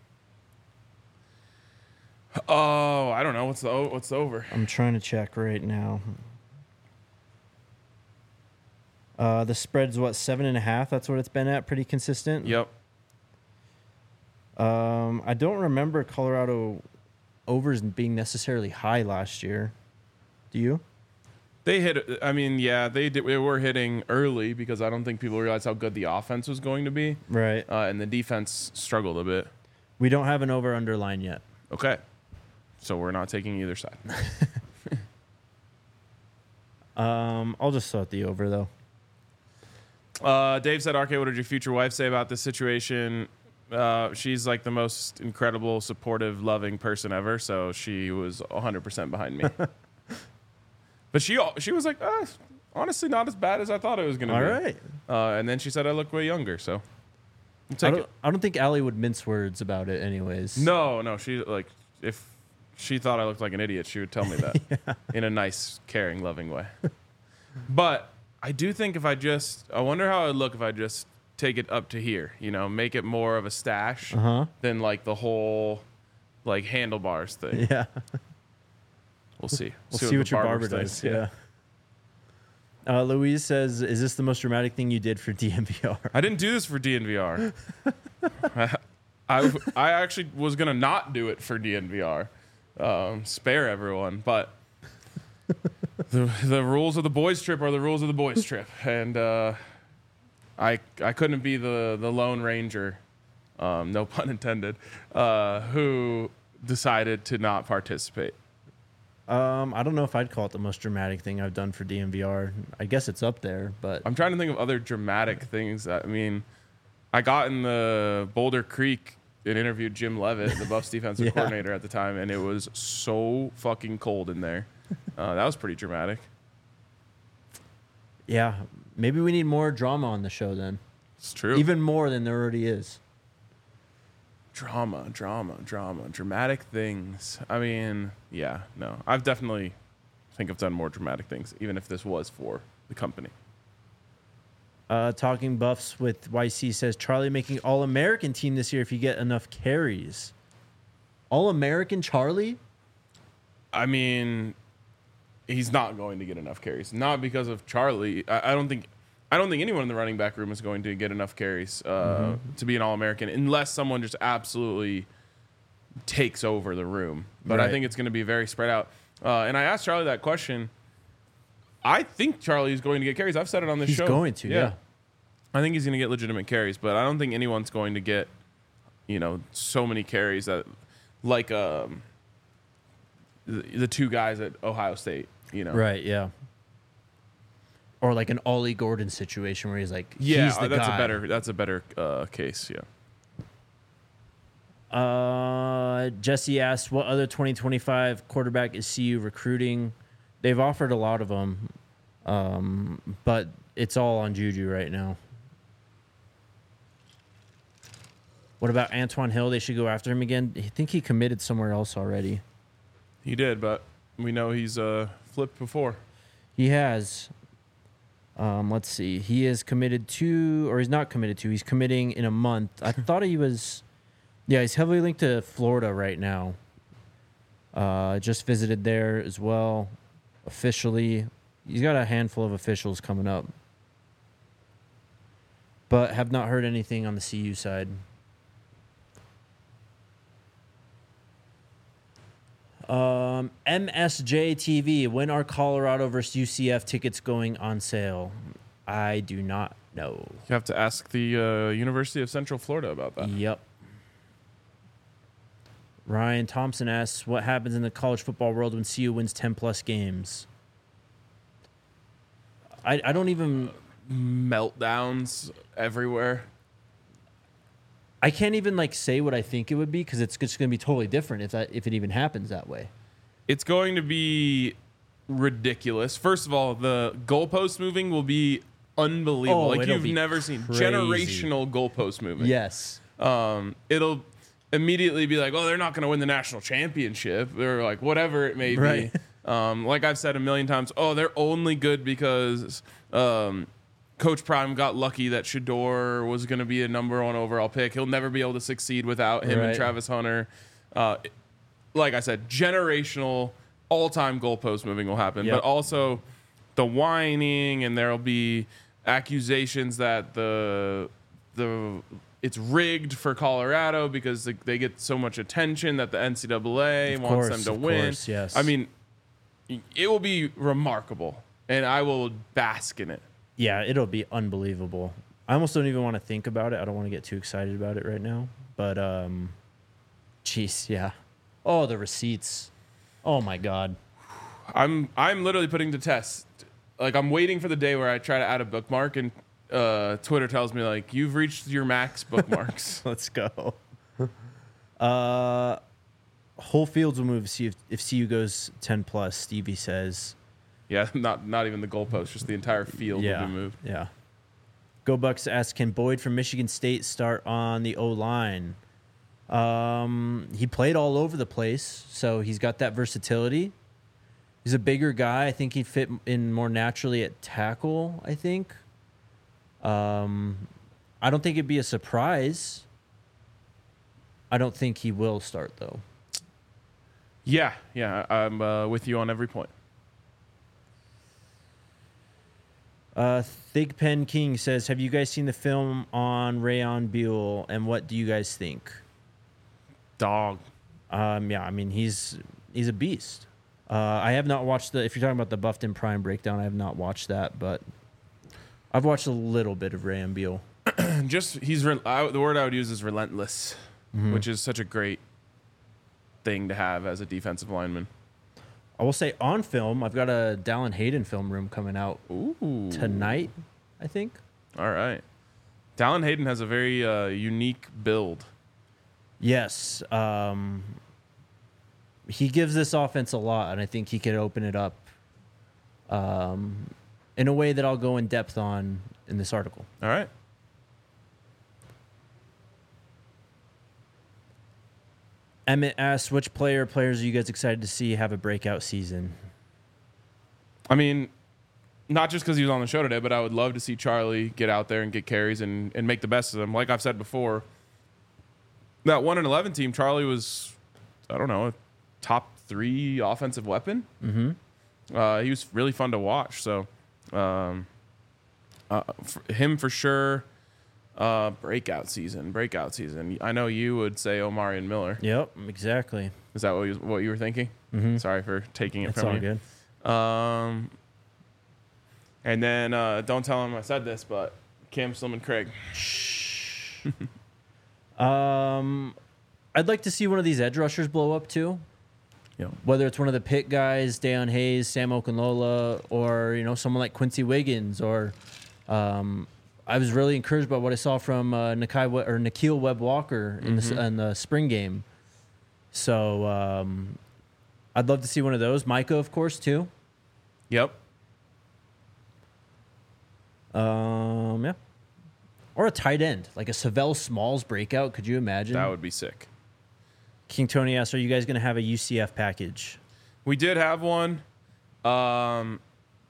Oh, I don't know. What's the o- what's the over? I'm trying to check right now. Uh, the spread's what, seven and a half? That's what it's been at, pretty consistent. Yep. Um, I don't remember Colorado overs being necessarily high last year. Do you? They hit. I mean, yeah, they did. They were hitting early because I don't think people realized how good the offense was going to be, Right. uh, and the defense struggled a bit. We don't have an over underline yet. Okay, so we're not taking either side. Um, I'll just throw out the over though. Uh, Dave said, "R K, what did your future wife say about this situation?" Uh, she's like the most incredible, supportive, loving person ever. So she was one hundred percent behind me. But she she was like, ah, honestly, not as bad as I thought it was going to All be. right. Uh, and then she said I look way younger. So we'll I take don't, it. I don't think Allie would mince words about it anyways. No, no. She like if she thought I looked like an idiot, she would tell me that Yeah. in a nice, caring, loving way. But I do think if I just, I wonder how it would look if I just take it up to here, you know, make it more of a stash Uh-huh. than like the whole like handlebars thing. Yeah. We'll see. We'll see, what, the your barber thinks. does. Yeah. Uh, Louise says, is this the most dramatic thing you did for D M V R? I didn't do this for D N V R. I, I actually was going to not do it for D N V R. Um, spare everyone. But the, the rules of the boys trip are the rules of the boys trip. And uh, I I couldn't be the, the Lone Ranger um, no pun intended, uh, who decided to not participate. Um, I don't know if I'd call it the most dramatic thing I've done for D M V R. I guess it's up there, but I'm trying to think of other dramatic things. That, I mean, I got in the Boulder Creek and interviewed Jim Levitt, the Buffs defensive Yeah. coordinator at the time, and it was so fucking cold in there. Uh, that was pretty dramatic. yeah, maybe we need more drama on the show then. It's true. Even more than there already is. Drama, drama, drama, dramatic things. I mean, yeah, no. I've definitely think I've done more dramatic things, even if this was for the company. Uh, Talking Buffs with Y C says Charlie making All-American team this year if you get enough carries. All-American Charlie? I mean, he's not going to get enough carries. Not because of Charlie. I, I don't think I don't think anyone in the running back room is going to get enough carries uh, mm-hmm. to be an All-American unless someone just absolutely takes over the room. But Right. I think it's going to be very spread out. Uh, and I asked Charlie that question. I think Charlie is going to get carries. I've said it on this He's show. going to, yeah. I think he's going to get legitimate carries, but I don't think anyone's going to get, you know, so many carries that, like um, the, the two guys at Ohio State, you know. Right, yeah. Or like an Ollie Gordon situation where he's like, Yeah, he's the that's guy. a better that's a better uh, case. Yeah. Uh, Jesse asked, what other twenty twenty-five quarterback is C U recruiting? They've offered a lot of them, um, but it's all on Juju right now. What about Antoine Hill? They should go after him again. I think he committed somewhere else already. He did, but we know he's uh, flipped before. He has. Um, let's see. He is committed to, or he's not committed to. He's committing in a month. I thought he was. Yeah, he's heavily linked to Florida right now. Uh, just visited there as well, officially. He's got a handful of officials coming up, but have not heard anything on the C U side. Um, M S J T V, when are Colorado versus U C F tickets going on sale? I do not know. You have to ask the uh, University of Central Florida about that. Yep. Ryan Thompson asks, what happens in the college football world when C U wins ten plus games? I, I don't even... Meltdowns everywhere. I can't even like say what I think it would be because it's just going to be totally different if that if it even happens that way. It's going to be ridiculous. First of all, the goalpost moving will be unbelievable. Oh, like it'll you've be never seen crazy. generational goalpost moving. Yes. Um, it'll immediately be like, oh, they're not going to win the national championship or like whatever it may Right. be. Um, like I've said a million times, oh, they're only good because um, Coach Prime got lucky that Shador was going to be a number one overall pick. He'll never be able to succeed without him Right. and Travis Hunter. Uh, like I said, generational, all-time goalpost moving will happen. Yep. But also the whining, and there'll be accusations that the the it's rigged for Colorado because they, they get so much attention that the N C double A Of wants course, them to of win. course, yes. I mean, it will be remarkable, and I will bask in it. Yeah, it'll be unbelievable. I almost don't even want to think about it. I don't want to get too excited about it right now. But, um, jeez, yeah. Oh, the receipts. Oh, my God. I'm I'm literally putting to test. Like I'm waiting for the day where I try to add a bookmark, and uh, Twitter tells me like you've reached your max bookmarks. Let's go. Uh, whole fields will move see if, if C U goes ten plus, Stevie says. Yeah, not not even the goalpost, just the entire field Yeah. will be moved. Yeah. Go Bucks asks, can Boyd from Michigan State start on the O-line? Um, he played all over the place, so he's got that versatility. He's a bigger guy. I think he'd fit in more naturally at tackle, I think. Um, I don't think it'd be a surprise. I don't think he will start, though. Yeah, yeah, I'm uh, with you on every point. Uh, Thigpen King says, have you guys seen the film on Rayon Buell, and what do you guys think? Dog. Um, yeah, I mean, he's he's a beast. Uh, I have not watched the, if you're talking about the Buffed and Prime breakdown, I have not watched that, but I've watched a little bit of Rayon Buell. just he's re- I, the word I would use is relentless, Mm-hmm. which is such a great thing to have as a defensive lineman. I will say on film, I've got a Dallin Hayden film room coming out Ooh. tonight, I think. All right. Dallin Hayden has a very uh, unique build. Yes. Um, he gives this offense a lot, and I think he could open it up um, in a way that I'll go in depth on in this article. All right. Emmett asks, which player or players are you guys excited to see have a breakout season? I mean, not just because he was on the show today, but I would love to see Charlie get out there and get carries and, and make the best of them. Like I've said before, that one and eleven team, Charlie was, I don't know, a top three offensive weapon. Mm-hmm. Uh, he was really fun to watch. So, um, uh, for him for sure. Uh, breakout season, breakout season. I know you would say Omarion Miller. Yep, exactly. Is that what you, what you were thinking? Mm-hmm. Sorry for taking it It's from all you. good. Um, and then uh, don't tell him I said this, but Cam Slim and Craig. Um, I'd like to see one of these edge rushers blow up too. Yeah. Whether it's one of the Pitt guys, Deion Hayes, Sam Okunlola, or you know someone like Quincy Wiggins, or um, I was really encouraged by what I saw from uh, Nakai We- or Nikhil Webb Walker in the in the spring game. So um, I'd love to see one of those. Micah, of course, too. Yep. Um, yeah. Or a tight end, like a Savell Smalls breakout. Could you imagine? That would be sick. King Tony asks, are you guys going to have a U C F package? We did have one. Um,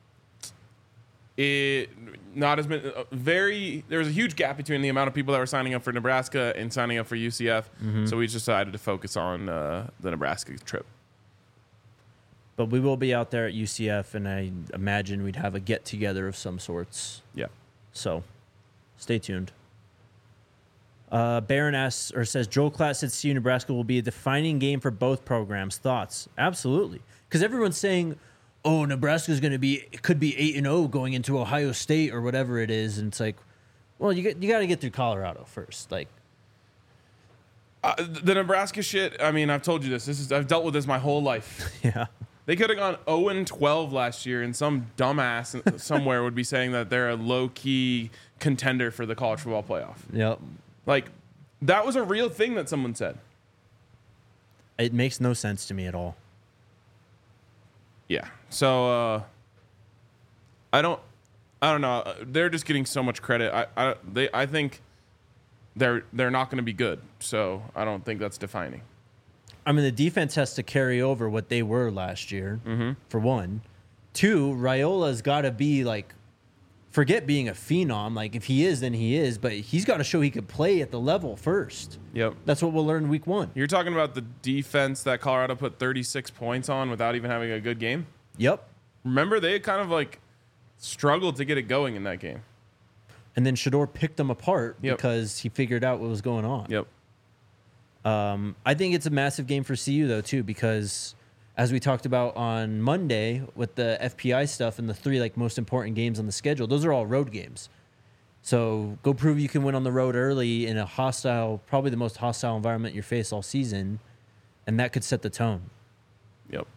it not as many. Uh, very. There was a huge gap between the amount of people that were signing up for Nebraska and signing up for U C F. So we just decided to focus on uh, the Nebraska trip. But we will be out there at U C F, and I imagine we'd have a get together of some sorts. Yeah. So, stay tuned. Uh, Baron asks or says Joel Klatt said C U Nebraska will be a defining game for both programs. Thoughts? Absolutely, because everyone's saying, "Oh, Nebraska's going to be it could be eight and zero going into Ohio State or whatever it is," and it's like, well, you get, you got to get through Colorado first. Like, Uh, the Nebraska shit. I mean, I've told you this. This is I've dealt with this my whole life. yeah, They could have gone zero and twelve last year, and some dumbass somewhere would be saying that they're a low key contender for the college football playoff. yep. Like, that was a real thing that someone said. It makes no sense to me at all. Yeah. So uh, I don't, I don't know. They're just getting so much credit. I, I, they, I think they're they're not going to be good. So I don't think that's defining. I mean, the defense has to carry over what they were last year, Mm-hmm. for one. Two, Raiola's got to be like, forget being a phenom. Like, if he is, then he is. But he's got to show he could play at the level first. Yep. That's what we'll learn week one. You're talking about the defense that Colorado put thirty-six points on without even having a good game. Yep. Remember, they kind of like struggled to get it going in that game. And then Shador picked them apart Yep. because he figured out what was going on. Yep. Um, I think it's a massive game for C U, though, too, because as we talked about on Monday with the F P I stuff and the three like most important games on the schedule, those are all road games. So go prove you can win on the road early in a hostile, probably the most hostile environment you face all season, and that could set the tone. Yep.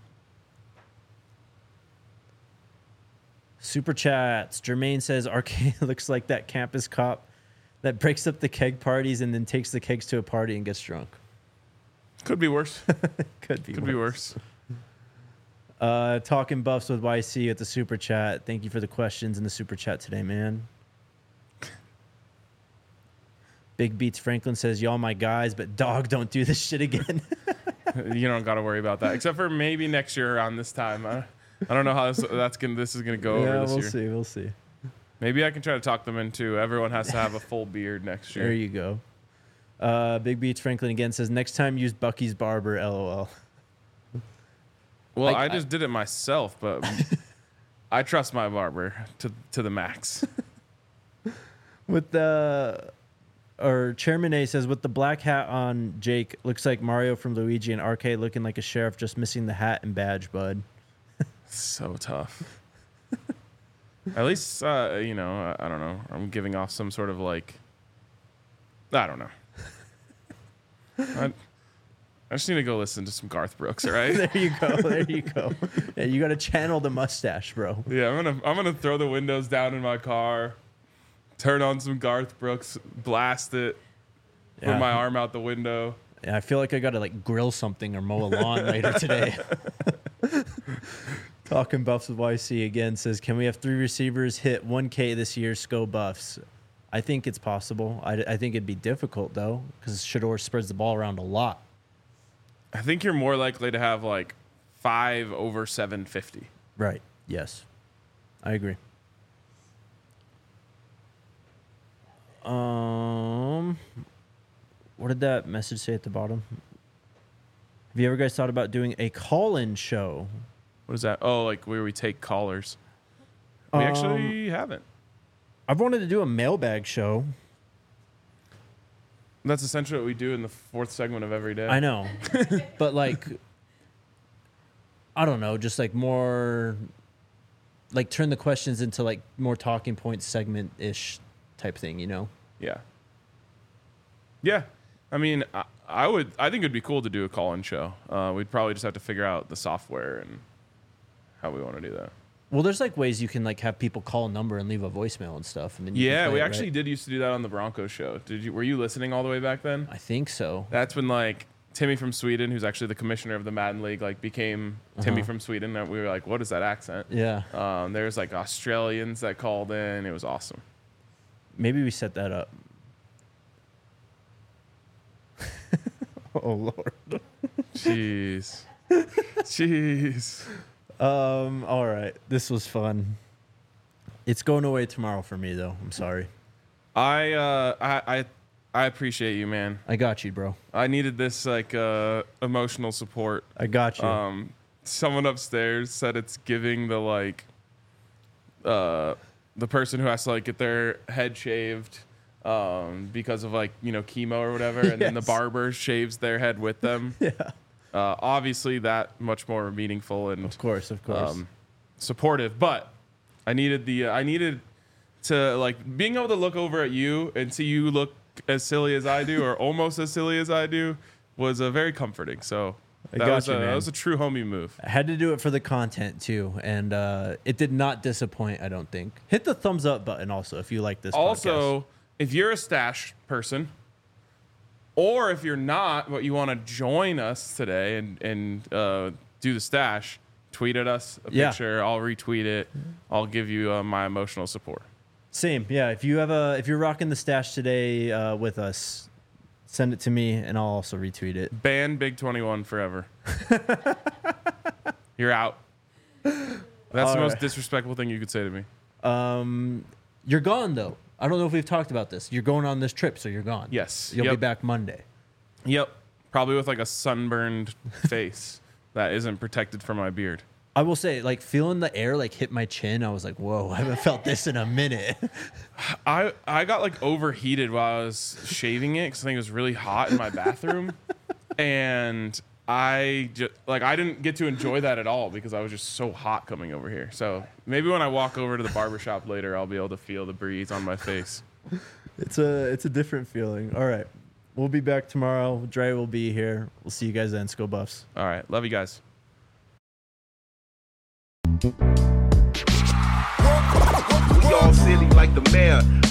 Super chats. Jermaine says Arcade looks like that campus cop that breaks up the keg parties and then takes the kegs to a party and gets drunk. Could be worse. Could be Could be worse. Uh, talking buffs with Y C at the super chat. Thank you for the questions in the super chat today, man. Big Beats Franklin says, y'all my guys, but dog, don't do this shit again. You don't got to worry about that, except for maybe next year around this time. I, I don't know how this, that's gonna this is gonna go yeah, over this we'll year. see. We'll see. Maybe I can try to talk them into everyone has to have a full beard next year. There you go. Uh, Big Beats Franklin again says, next time use Bucky's barber, LOL. Well, Like, I just did it myself, but I trust my barber to to the max. With the, or Chairman A says, with the black hat on Jake, looks like Mario from Luigi and Arcade looking like a sheriff, just missing the hat and badge, bud. So tough. At least, uh, you know, I, I don't know. I'm giving off some sort of like I don't know. I, I just need to go listen to some Garth Brooks, all right? There you go. There you go. Yeah, you got to channel the mustache, bro. Yeah, I'm gonna I'm gonna throw the windows down in my car, turn on some Garth Brooks, blast it, Yeah. put my arm out the window. Yeah, I feel like I got to like grill something or mow a lawn later today. Talking Buffs with Y C again says, can we have three receivers hit one K this year? Sco Buffs. I think it's possible. I, I think it'd be difficult though, because Shador spreads the ball around a lot. I think you're more likely to have like five over seven fifty. Right. Yes. I agree. Um, what did that message say at the bottom? Have you ever guys thought about doing a call-in show? What is that? Oh, like where we take callers. We Um, actually haven't. I've wanted to do a mailbag show. That's essentially what we do in the fourth segment of every day. I know, but like, I don't know, just like more, like turn the questions into like more talking point segment ish type thing, you know? Yeah. Yeah. I mean, I, I would. I think it'd be cool to do a call-in show. Uh, we'd probably just have to figure out the software and how we want to do that. Well, there's like ways you can like have people call a number and leave a voicemail and stuff, and then you can Yeah, play we it, actually right? did used to do that on the Broncos show. Did you? Were you listening all the way back then? I think so. That's when like Timmy from Sweden, who's actually the commissioner of the Madden League, like became Timmy Uh-huh. from Sweden. And we were like, what is that accent? Yeah, Um, there's like Australians that called in. It was awesome. maybe we set that up. Oh Lord. Jeez. Jeez. Um. All right. This was fun. It's going away tomorrow for me though. I'm sorry. I uh I I, I appreciate you, man. I got you, bro. I needed this like uh emotional support. I got you. Um, someone upstairs said it's giving the like uh the person who has to like get their head shaved um because of like, you know, chemo or whatever, and then the Yes. barber shaves their head with them. yeah. Uh, obviously that much more meaningful and Of course. Of course. um, supportive, but I needed the uh, I needed to like being able to look over at you and see you look as silly as I do or almost as silly as I do was uh, very comforting. So I that got was you, a, that man. was a true homie move. I had to do it for the content too, and uh, it did not disappoint. I don't think. Hit the thumbs up button also if you like this. Also, podcast. if you're a stash person, or if you're not, but you want to join us today and and uh, do the stash, tweet at us a Yeah. picture. I'll retweet it. I'll give you uh, my emotional support. Same, yeah. If you have a, if you're rocking the stash today uh, with us, send it to me, and I'll also retweet it. Ban Big twenty-one forever. You're out. That's All the most right. disrespectful thing you could say to me. Um, you're gone though. I don't know if we've talked about this. You're going on this trip, so you're gone. Yes. You'll be Yep. back Monday. Yep. Probably with like a sunburned face that isn't protected from my beard. I will say, like feeling the air like hit my chin, I was like, "Whoa, I haven't felt this in a minute." I I got like overheated while I was shaving it because I think it was really hot in my bathroom, and I just like I didn't get to enjoy that at all because I was just so hot coming over here. So maybe when I walk over to the barbershop later, I'll be able to feel the breeze on my face. It's a, it's a different feeling. All right, we'll be back tomorrow. Dre will be here. We'll see you guys then. Go Buffs. All right, love you guys. We all silly like the mayor.